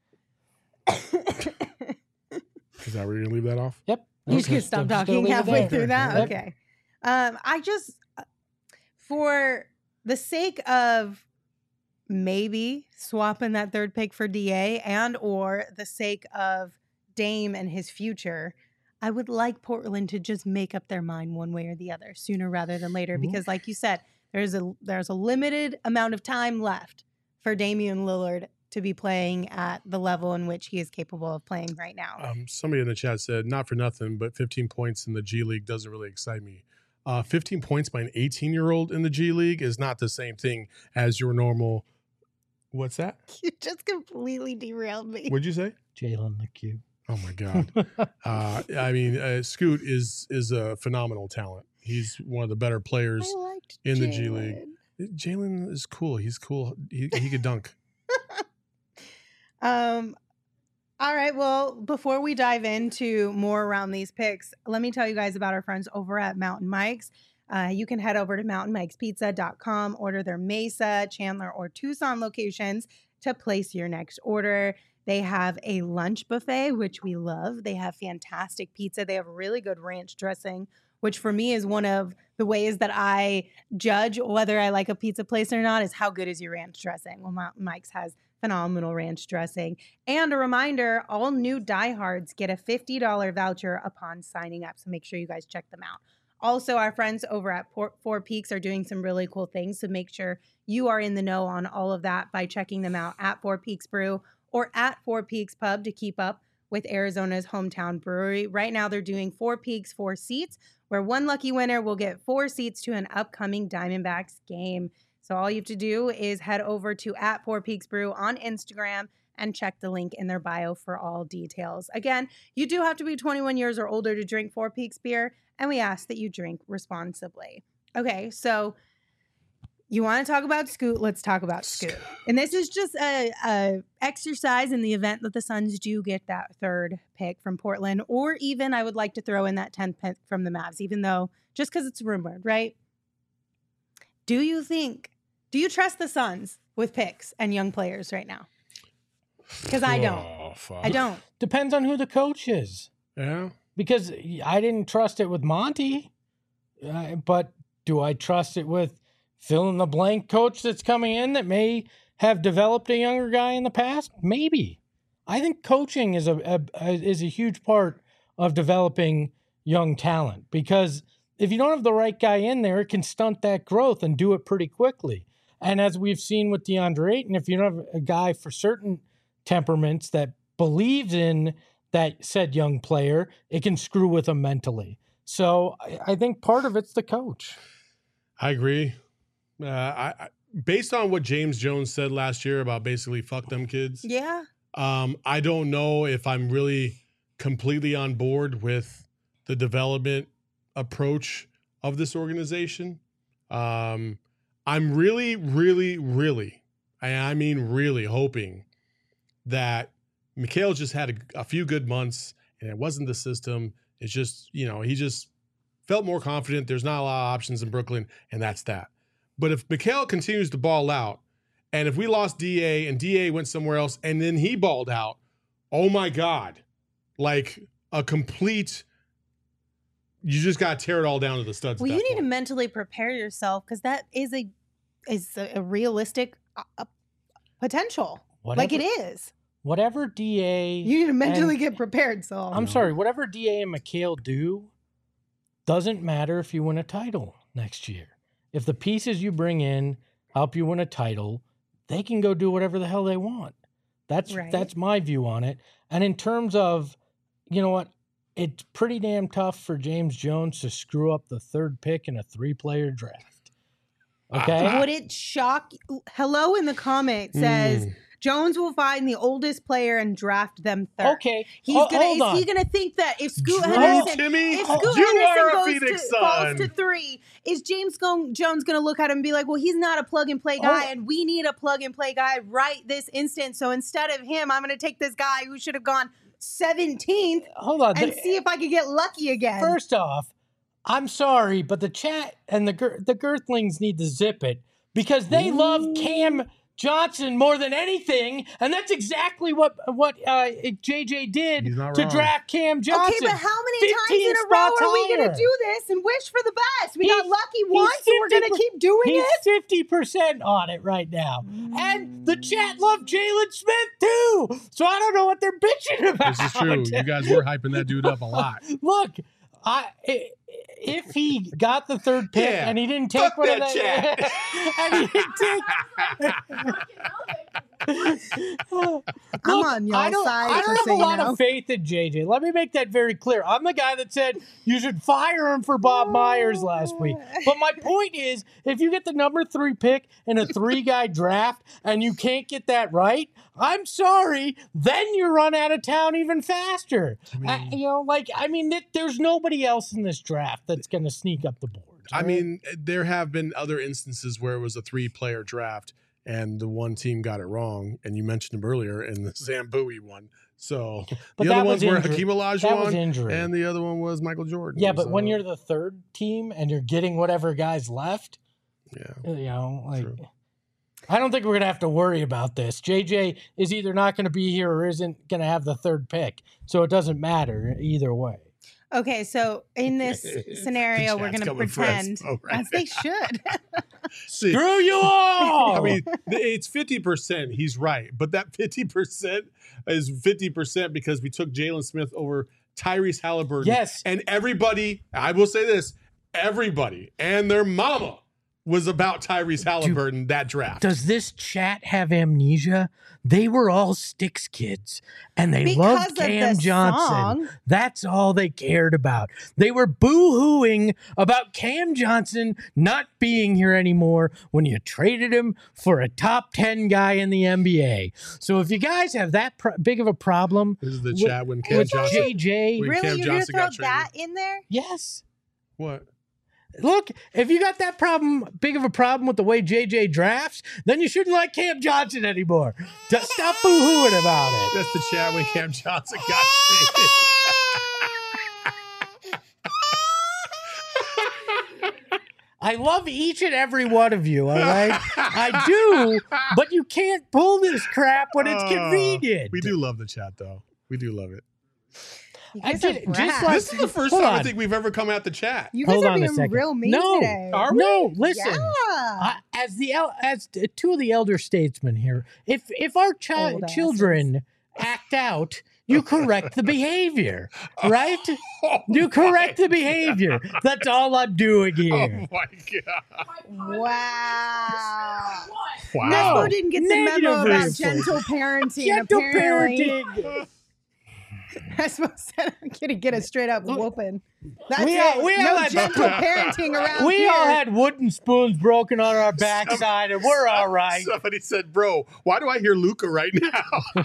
Is that where you're going to leave that off? yep. You Okay. can stop I'm just gonna talking leave it halfway there. through that. Yep. Okay. Um, I just, for the sake of maybe swapping that third pick for D A and or the sake of Dame and his future, I would like Portland to just make up their mind one way or the other sooner rather than later. Mhm. Because like you said, there's a there's a limited amount of time left for Damian Lillard to be playing at the level in which he is capable of playing right now. Um, somebody in the chat said, not for nothing, but fifteen points in the G League doesn't really excite me. Uh, fifteen points by an eighteen-year-old in the G League is not the same thing as your normal What's that? You just completely derailed me. What'd you say? Jalen the Q. Oh my God. uh, I mean, uh, Scoot is is a phenomenal talent. He's one of the better players I liked in the Jalen. G League. Jalen is cool. He's cool. He, he could dunk. Um, all right. Well, before we dive into more around these picks, let me tell you guys about our friends over at Mountain Mike's. Uh, you can head over to mountain mikes pizza dot com, order their Mesa, Chandler, or Tucson locations to place your next order. They have a lunch buffet, which we love. They have fantastic pizza. They have really good ranch dressing, which for me is one of the ways that I judge whether I like a pizza place or not, is how good is your ranch dressing. Well, Mountain Mike's has phenomenal ranch dressing. And a reminder, all new diehards get a fifty dollars voucher upon signing up. So make sure you guys check them out. Also, our friends over at Four Peaks are doing some really cool things. So make sure you are in the know on all of that by checking them out at Four Peaks Brew or at Four Peaks Pub to keep up with Arizona's hometown brewery. Right now, they're doing Four Peaks, four seats, where one lucky winner will get four seats to an upcoming Diamondbacks game. So all you have to do is head over to at Four Peaks Brew on Instagram and check the link in their bio for all details. Again, you do have to be twenty-one years or older to drink Four Peaks beer, and we ask that you drink responsibly. Okay, so you want to talk about Scoot? Let's talk about Scoot. And this is just a, a exercise in the event that the Suns do get that third pick from Portland, or even I would like to throw in that tenth pick from the Mavs, even though just because it's rumored, right? Do you think, do you trust the Suns with picks and young players right now? Because I don't. Oh, fuck. I don't. Depends on who the coach is. Yeah. Because I didn't trust it with Monty, uh, but do I trust it with fill in the blank coach that's coming in that may have developed a younger guy in the past? Maybe. I think coaching is a, a, a is a huge part of developing young talent, because if you don't have the right guy in there, it can stunt that growth and do it pretty quickly. And as we've seen with DeAndre Ayton, if you don't have a guy for certain temperaments that believes in that said young player, it can screw with them mentally. So I, I think part of it's the coach. I agree. Uh, I, I based on what James Jones said last year about basically fuck them kids. Yeah. Um, I don't know if I'm really completely on board with the development approach of this organization. Um, I'm really, really, really, I, I mean, really hoping that Mikhail just had a, a few good months and it wasn't the system. It's just, you know, he just felt more confident. There's not a lot of options in Brooklyn, and that's that. But if Mikhail continues to ball out, and if we lost D A and D A went somewhere else and then he balled out, oh my God, like a complete, you just got to tear it all down to the studs. Well, at you that need to point. mentally prepare yourself, because that is a is a, a realistic uh, uh, potential. Whatever, like it is. Whatever D A... You need to mentally and- get prepared, Saul. I'm sorry, whatever D A and Mikhail do doesn't matter if you win a title next year. If the pieces you bring in help you win a title, they can go do whatever the hell they want. That's Right. that's my view on it. And in terms of, you know what, it's pretty damn tough for James Jones to screw up the third pick in a three-player draft. Okay? Would it shock? Hello in the comment says Mm. Jones will find the oldest player and draft them third. Okay. He's Ho- gonna. hold Is on. he gonna think that if Scoot Drew Henderson, Timmy, if you Scoot are a Henderson goes Phoenix to, falls Sun. to three, is James Go- Jones gonna look at him and be like, "Well, he's not a plug and play guy, Oh. and we need a plug and play guy right this instant. So instead of him, I'm gonna take this guy who should have gone seventeenth Hold on. and The- see if I could get lucky again." First off, I'm sorry, but the chat and the gir- the Girthlings need to zip it because they love Cam Johnson more than anything, and that's exactly what what uh, J J did He's not to wrong. draft Cam Johnson. Okay, but how many times fifteen in a row spots are we going higher. to do this and wish for the best? We got He's- lucky he's once, and we're going to fifty keep doing He's it? fifty percent on it right now. And the chat loved Jalen Smith too. So I don't know what they're bitching about. This is true. You guys were hyping that dude up a lot. Look, I if he got the third pick Yeah. and he didn't take Fuck one that of the and he didn't take I'm Look, on y'all's I don't, side, I don't just have so a you lot know. of faith in J J. Let me make that very clear. I'm the guy that said you should fire him for Bob Myers last week. But my point is, if you get the number three pick in a three-guy draft and you can't get that right, I'm sorry, then you run out of town even faster. I mean- you know, like, I mean, th- there's nobody else in this draft that's going to sneak up the board. I mean, there have been other instances where it was a three-player draft and the one team got it wrong, and you mentioned him earlier in the Sam Bowie one. So But the that other was ones were injury. Hakeem That was Olajuwon, injury. and the other one was Michael Jordan. Yeah, but when So, you're the third team and you're getting whatever guys left, yeah, you know, like True. I don't think we're gonna have to worry about this. J J is either not gonna be here or isn't gonna have the third pick, so it doesn't matter either way. Okay, so in this scenario, The we're chat's going to coming for pretend, Espo right as they should. See, Screw you all! I mean, th- it's fifty percent. He's right. But that fifty percent is fifty percent because we took Jalen Smith over Tyrese Halliburton. Yes. And everybody, I will say this, everybody and their mama was about Tyrese Halliburton that draft. Does this chat have amnesia? They were all Sticks kids, and they Because loved of Cam the Johnson. song. That's all they cared about. They were boo-hooing about Cam Johnson not being here anymore when you traded him for a top ten guy in the N B A. So if you guys have that pro- big of a problem This is the with- chat when Cam with Johnson. J J, When Really? Cam You're going to Johnson throw got traded. that in there? yes. What? Look, if you got that problem, big of a problem with the way J J drafts, then you shouldn't like Cam Johnson anymore. Just stop boo-hooing about it. That's the chat when Cam Johnson got traded. I love each and every one of you, all right? I do, but you can't pull this crap when it's Oh, convenient. We do love the chat, though. We do love it. You I guys are did- just brats. like- This is the first Hold time I on. think we've ever come at the chat. You guys Hold are on a being second. real mean No, today. are we? No, listen. Yeah. I- as the el- as t- two of the elder statesmen here, if if our chi- Old asses. children act out, you correct the behavior, right? You correct the behavior. That's all I'm doing Oh here. my god! Wow. Wow. Nespo didn't get the Negative memo about reinforcement. gentle parenting. Gentle apparently. parenting. Nespo said I'm going to get a straight up whooping. That's We it. all- we no all had- gentle parenting around We here. all had wooden spoons broken on our backside, and we're all right. Somebody said, "Bro, why do I hear Luca right now?"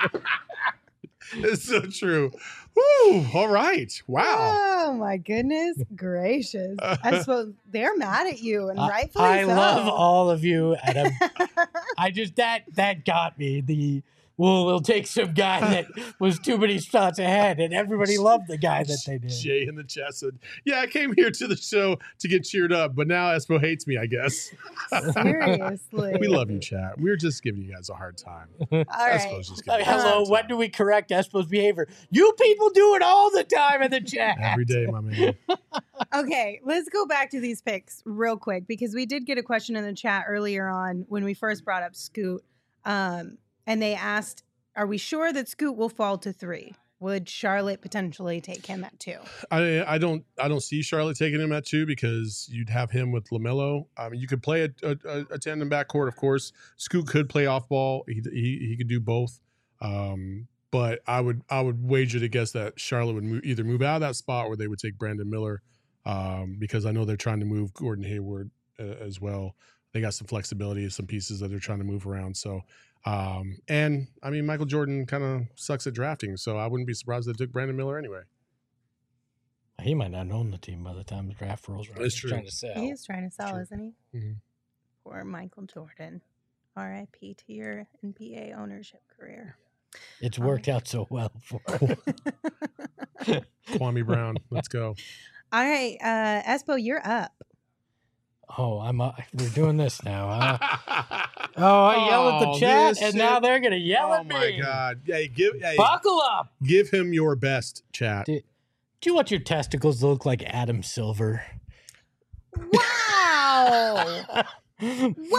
It's so true. Woo! All right. Wow. Oh my goodness gracious! I suppose they're mad at you, and I- rightfully I so. love all of you, and I'm, I just that that got me. The well, we'll take some guy that was too many spots ahead, and everybody loved the guy that they did. Jay in the chat said, "Yeah, I came here to the show to get cheered up, but now Espo hates me. I guess." Seriously, We love you, chat. We're just giving you guys a hard time. All right. Espo's just Uh, giving you a hello, hard when time. do we correct Espo's behavior? You people do it all the time in the chat. Every day, my man. Okay, let's go back to these picks real quick because we did get a question in the chat earlier on when we first brought up Scoot. Um, and they asked, are we sure that Scoot will fall to three? Would Charlotte potentially take him at two? I I don't I don't see Charlotte taking him at two because you'd have him with LaMelo. I mean, you could play a, a, a tandem backcourt, of course. Scoot could play off ball. He he, he could do both. Um, but I would I would wager to guess that Charlotte would move, either move out of that spot or they would take Brandon Miller um, because I know they're trying to move Gordon Hayward uh, as well. They got some flexibility, some pieces that they're trying to move around. So. Um, and I mean, Michael Jordan kind of sucks at drafting, so I wouldn't be surprised if they took Brandon Miller anyway. He might not own the team by the time the draft rolls around. That's He's true. Trying to sell. He is trying to sell, True. isn't he? Mhm. Poor Michael Jordan. R I P to your N B A ownership career. It's worked out so well for him. Kwame Brown, let's go. All right, uh, Espo, you're up. Oh, I'm. Uh, we're doing this now. Huh? Oh, I yell at Oh, the chat, this and shit. now they're gonna yell Oh at me. my god! Hey, give hey, Buckle up. give him your best, chat. Do, do you want your testicles to look like Adam Silver? Wow! wow!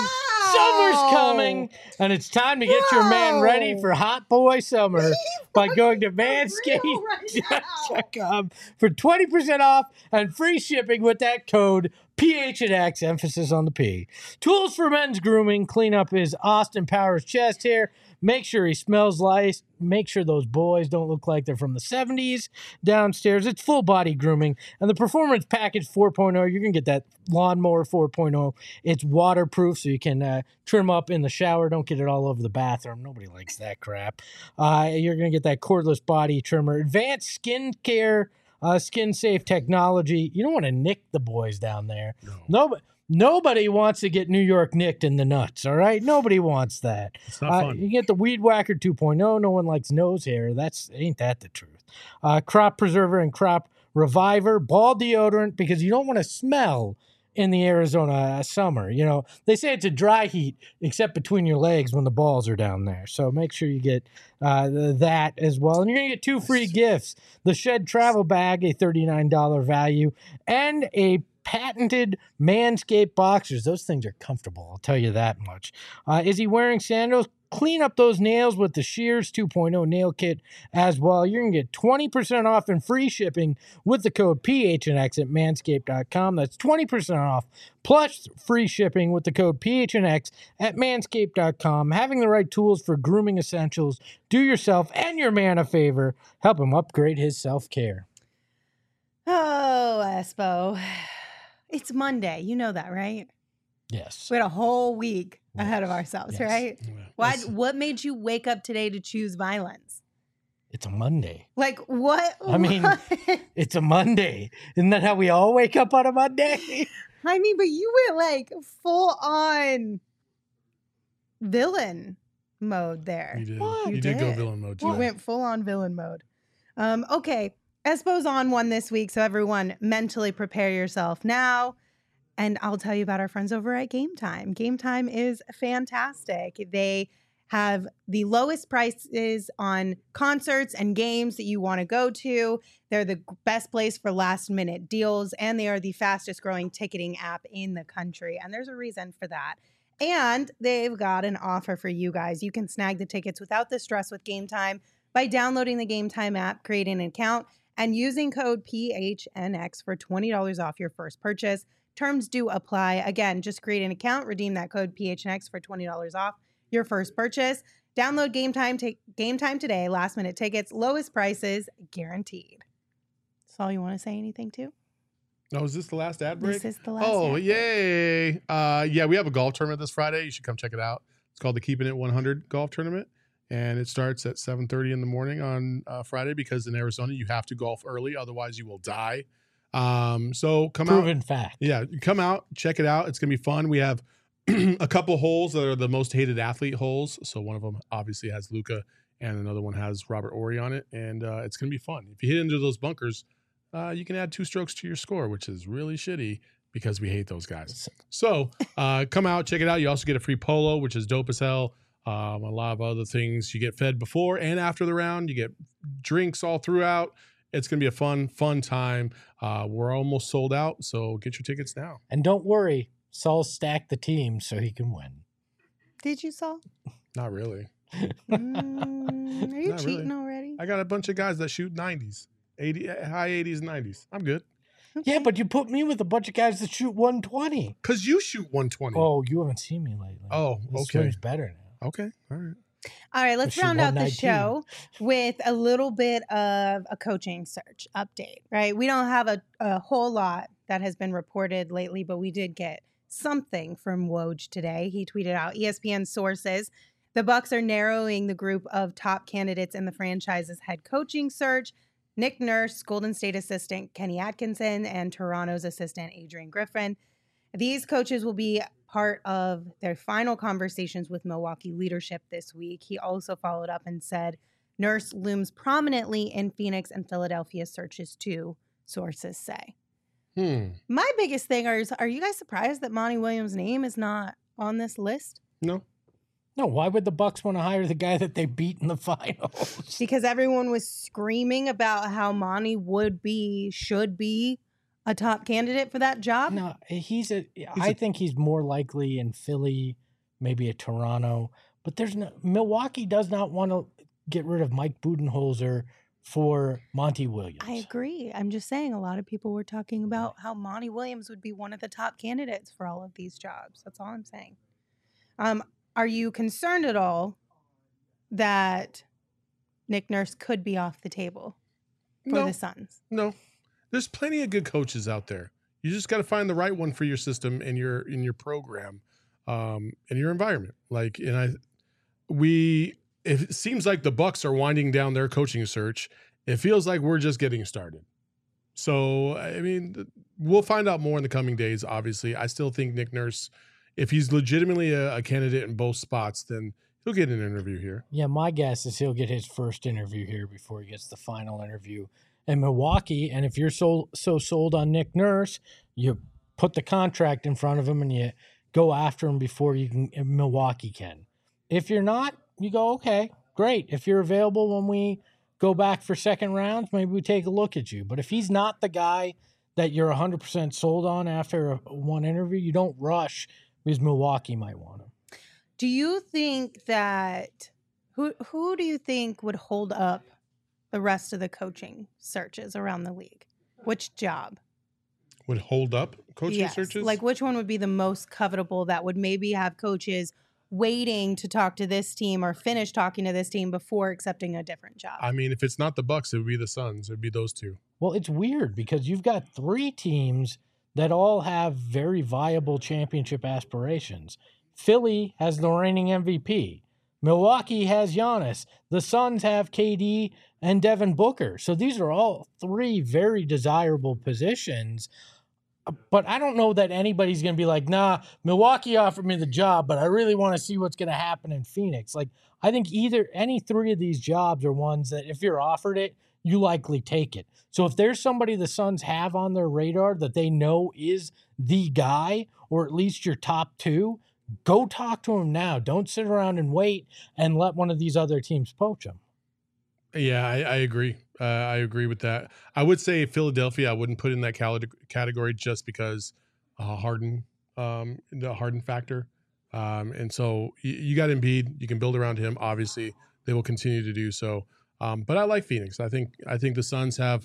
Summer's coming, and it's time to get your man ready Bro. for hot boy summer by going to manscaped real right dot com for twenty percent off and free shipping with that code P H N X, emphasis on the P. Tools for men's grooming, clean up his Austin Powers chest hair, make sure he smells nice, make sure those boys don't look like they're from the seventies downstairs. It's full body grooming. And the Performance Package four point oh, you're going to get that Lawnmower four point oh. It's waterproof, so you can uh, trim up in the shower. Don't get it all over the bathroom. Nobody likes that crap. Uh, you're going to get that cordless body trimmer. Advanced skin care, uh, skin safe technology. You don't want to nick the boys down there. No. Nobody. Nobody wants to get New York nicked in the nuts, all right? Nobody wants that. It's not Uh, fun. you get the Weed Whacker two point oh. No one likes nose hair. That's ain't that the truth. Uh, crop preserver and crop reviver, ball deodorant, because you don't want to smell in the Arizona summer. You know, they say it's a dry heat, except between your legs when the balls are down there. So make sure you get uh, th- that as well. And you're going to get two free gifts. The Shed Travel Bag, a thirty-nine dollars value, and a patented Manscaped boxers. Those things are comfortable, I'll tell you that much. Uh, is he wearing sandals? Clean up those nails with the Shears two point oh nail kit as well. You're going to get twenty percent off and free shipping with the code P H N X at manscaped dot com. That's twenty percent off plus free shipping with the code P H N X at manscaped dot com. Having the right tools for grooming essentials. Do yourself and your man a favor. Help him upgrade his self-care. Oh, Espo. It's Monday. You know that, right? Yes. We had a whole week ahead of ourselves, Yes. right? Yeah. Why? That's- What made you wake up today to choose violence? It's a Monday. Like what? I mean- what? It's a Monday. Isn't that how we all wake up on a Monday? I mean, but you went like full on villain mode there. You did. What? You, You did. go did. villain mode. You today. went full on villain mode. Um, okay. Espo's on one this week, so everyone mentally prepare yourself now. And I'll tell you about our friends over at Game Time. Game Time is fantastic. They have the lowest prices on concerts and games that you want to go to. They're the best place for last minute deals, and they are the fastest growing ticketing app in the country. And there's a reason for that. And they've got an offer for you guys. You can snag the tickets without the stress with Game Time by downloading the Game Time app, creating an account, and using code P H N X for twenty dollars off your first purchase. Terms do apply. Again, just create an account, redeem that code P H N X for twenty dollars off your first purchase. Download Game Time, take Game Time today. Last minute tickets, lowest prices guaranteed. That's all you want to say anything to? Oh, is this the last ad break? This is the last. Oh, ad. yay. Uh, yeah, we have a golf tournament this Friday. You should come check it out. It's called the Keeping It one hundred Golf Tournament. And it starts at seven thirty in the morning on uh, Friday because in Arizona, you have to golf early. Otherwise, you will die. Um, so come out. Proven fact. Yeah, come out, check it out. It's going to be fun. We have a couple holes that are the most hated athlete holes. So one of them obviously has Luca and another one has Robert Ory on it. And uh, it's going to be fun. If you hit into those bunkers, uh, you can add two strokes to your score, which is really shitty because we hate those guys. So uh, come out, check it out. You also get a free polo, which is dope as hell. Um, a lot of other things. You get fed before and after the round. You get drinks all throughout. It's going to be a fun, fun time. Uh, we're almost sold out, so get your tickets now. And don't worry, Saul stacked the team so he can win. Did you, Saul? Not really. Mm, are you Not really. cheating already? I got a bunch of guys that shoot nineties, eighty, high eighties, nineties. I'm good. Yeah, but you put me with a bunch of guys that shoot one twenty. Because you shoot one twenty. Oh, you haven't seen me lately. Oh, This okay. swing's better now. Okay. All right. All right, let's She round won out the nineteen. show with a little bit of a coaching search update, right? We don't have a, a whole lot that has been reported lately, but we did get something from Woj today. He tweeted out E S P N sources. The Bucks are narrowing the group of top candidates in the franchise's head coaching search. Nick Nurse, Golden State assistant Kenny Atkinson, and Toronto's assistant Adrian Griffin. These coaches will be part of their final conversations with Milwaukee leadership this week. He also followed up and said Nurse looms prominently in Phoenix and Philadelphia searches too, sources say. Hmm. My biggest thing is, are you guys surprised that Monty Williams' name is not on this list? No. No, why would the Bucks want to hire the guy that they beat in the finals? Because everyone was screaming about how Monty would be, should be a top candidate for that job. No, he's a. I think he's more likely in Philly maybe a Toronto. But there's no Milwaukee does not want to get rid of Mike Budenholzer for Monty Williams. I agree. I'm just saying a lot of people were talking about how Monty Williams would be one of the top candidates for all of these jobs. That's all I'm saying. Um, are you concerned at all that Nick Nurse could be off the table for No. the Suns? No, there's plenty of good coaches out there. You just got to find the right one for your system and your in your program, um, and your environment. Like, and I, we. It seems like the Bucks are winding down their coaching search. It feels like we're just getting started. So, I mean, we'll find out more in the coming days. Obviously, I still think Nick Nurse, if he's legitimately a, a candidate in both spots, then he'll get an interview here. Yeah, my guess is he'll get his first interview here before he gets the final interview in Milwaukee. And if you're so so sold on Nick Nurse, you put the contract in front of him and you go after him before you can Milwaukee can. If you're not, you go, okay, great. If you're available when we go back for second rounds, maybe we take a look at you. But if he's not the guy that you're one hundred percent sold on after a, one interview, you don't rush because Milwaukee might want him. Do you think that who who do you think would hold up the rest of the coaching searches around the league? Which job Would hold up coaching yes. searches? Like which one would be the most covetable that would maybe have coaches waiting to talk to this team or finish talking to this team before accepting a different job? I mean, if it's not the Bucks, it would be the Suns. It would be those two. Well, it's weird because you've got three teams that all have very viable championship aspirations. Philly has the reigning M V P. Milwaukee has Giannis. The Suns have K D and Devin Booker. So these are all three very desirable positions. But I don't know that anybody's going to be like, nah, Milwaukee offered me the job, but I really want to see what's going to happen in Phoenix. Like, I think either any three of these jobs are ones that if you're offered it, you likely take it. So if there's somebody the Suns have on their radar that they know is the guy, or at least your top two, go talk to him now. Don't sit around and wait and let one of these other teams poach him. Yeah, I, I agree. Uh, I agree with that. I would say Philadelphia, I wouldn't put in that cal- category just because uh, Harden, um, the Harden factor. Um, and so you, you got Embiid. You can build around him. Obviously, they will continue to do so. Um, but I like Phoenix. I think I think the Suns have.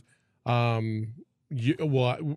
Um, you, well,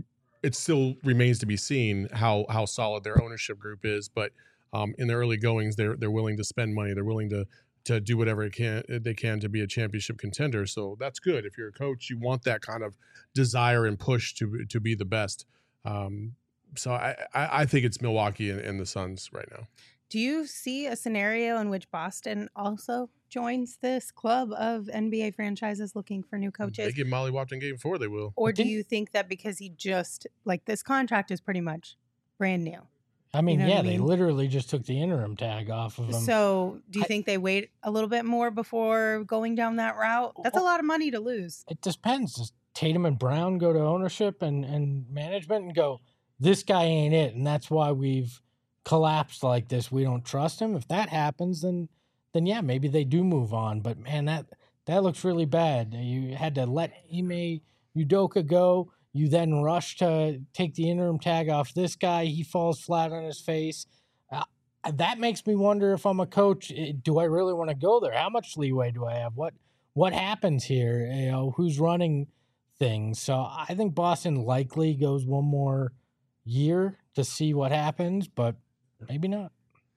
it still remains to be seen how how solid their ownership group is. But um, in the early goings, they're they're willing to spend money. They're willing to. to do whatever it can, they can to be a championship contender. So that's good. If you're a coach, you want that kind of desire and push to to be the best. Um, so I, I, I think it's Milwaukee and, and the Suns right now. Do you see a scenario in which Boston also joins this club of N B A franchises looking for new They coaches? get mollywopped in game four, they will. Or I do think- you think that because he just, like this contract is pretty much brand new? I mean, You know what yeah, I they mean? literally just took the interim tag off of him. So do you I- think they wait a little bit more before going down that route? That's a lot of money to lose. It depends. Does Tatum and Brown go to ownership and, and management and go, this guy ain't it, and that's why we've collapsed like this. We don't trust him. If that happens, then then yeah, maybe they do move on. But man, that that looks really bad. You had to let Ime Udoka go. You then rush to take the interim tag off this guy. He falls flat on his face. Uh, that makes me wonder if I'm a coach, eh, do I really want to go there? How much leeway do I have? What what happens here? You know, who's running things? So I think Boston likely goes one more year to see what happens, but maybe not.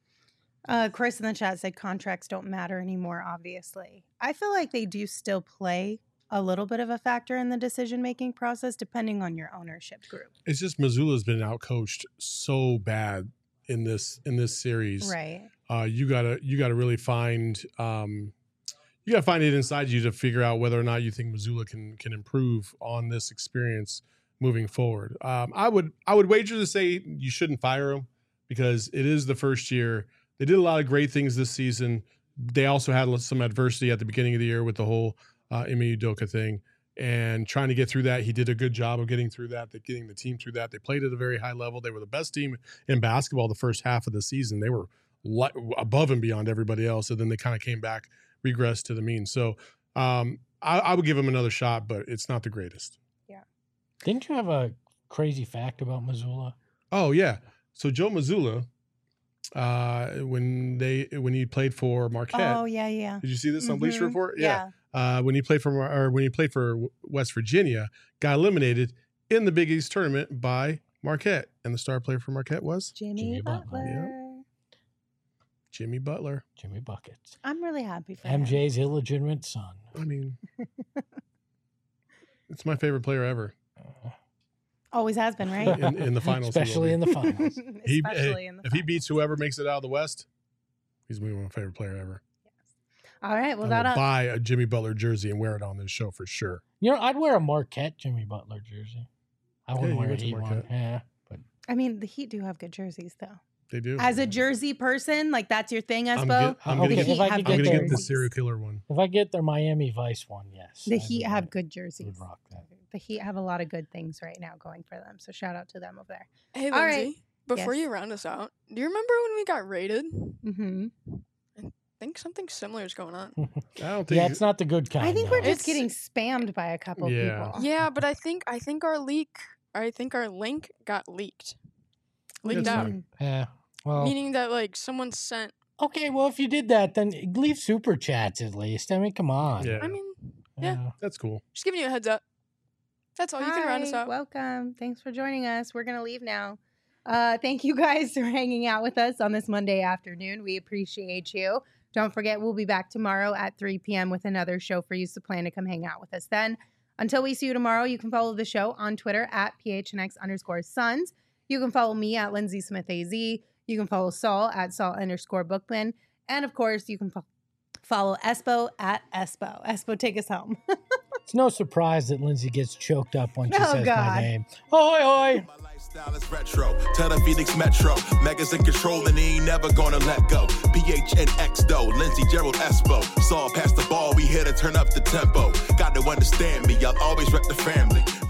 Uh, Chris in the chat said contracts don't matter anymore, obviously. I feel like they do still play a little bit of a factor in the decision-making process, depending on your ownership group. It's just Missoula's been outcoached so bad in this in this series. Right. Uh, you gotta you gotta really find um, you gotta find it inside you to figure out whether or not you think Missoula can can improve on this experience moving forward. Um, I would I would wager to say you shouldn't fire him because it is the first year. They did a lot of great things this season. They also had some adversity at the beginning of the year with the whole uh, Ime Udoka thing and trying to get through that. He did a good job of getting through that, getting the team through that. They played at a very high level. They were the best team in basketball the first half of the season. They were li- above and beyond everybody else. And then they kind of came back, regressed to the mean. So um, I, I would give him another shot, but it's not the greatest. Didn't you have a crazy fact about Missoula? Oh, yeah. So Joe Mazzulla uh, when they when he played for Marquette. Oh yeah, yeah. Did you see this on Bleacher Mhm. Report? Yeah. Uh, when he played for or when he played for West Virginia, got eliminated in the Big East tournament by Marquette, and the star player for Marquette was Jimmy, Jimmy Butler. Butler. Jimmy Butler. Jimmy Buckets. I'm really happy for him. M J's illegitimate son. I mean, it's my favorite player ever. Always has been, right? In, in the finals, he will Especially be. in the finals. He- Especially in the if he finals. beats whoever makes it out of the West, he's gonna be my favorite player ever. All right. Well, I that will uh, buy a Jimmy Butler jersey and wear it on this show for sure. You know, I'd wear a Marquette Jimmy Butler jersey. I wouldn't you wear a went to Heat one. Marquette. Yeah, but I mean, the Heat do have good jerseys, though. They do. As a jersey person, like that's your thing, I'm, Espo. get, I'm Okay, gonna the get, Heat if I have could I'm good get gonna their- get the jerseys. serial killer one. if I get their Miami Vice one, yes. The I Heat would have rock- good would jerseys. rock that. The Heat have a lot of good things right now going for them. So shout out to them over there. Hey, All Lindsay, right. before Yes. you round us out, do you remember when we got raided? Mm-hmm. I think something similar is going on. I don't think. Yeah, it's not the good kind. I think no. we're just It's- getting spammed by a couple Yeah. people. Yeah, but I think I think our leak, I think our link got leaked, leaked That's out. fine. Yeah. Well, Meaning that like someone sent. okay. Well, if you did that, then leave super chats at least. I mean, come on. Yeah, I mean, yeah. that's cool. just giving you a heads up. That's all. You can round us Hi, out. Welcome. Thanks for joining us. We're going to leave now. Uh, thank you guys for hanging out with us on this Monday afternoon. We appreciate you. Don't forget, we'll be back tomorrow at three p.m. with another show for you, so plan to come hang out with us then. Until we see you tomorrow, you can follow the show on Twitter at P H N X underscore Suns. You can follow me at Lindsay Smith A Z. You can follow Saul at Saul underscore Bookman. And of course, you can fo- follow Espo at Espo. Espo, take us home. It's no surprise that Lindsay gets choked up when she Oh, says God. my name. Ahoy, ahoy. My lifestyle is retro. Tell the Phoenix Metro. Megas in control and he ain't never gonna let go. P H N X though. Lindsay Gerald Espo. Saw past the ball. We here to turn up the tempo. Got to understand me. I'll always rep the family.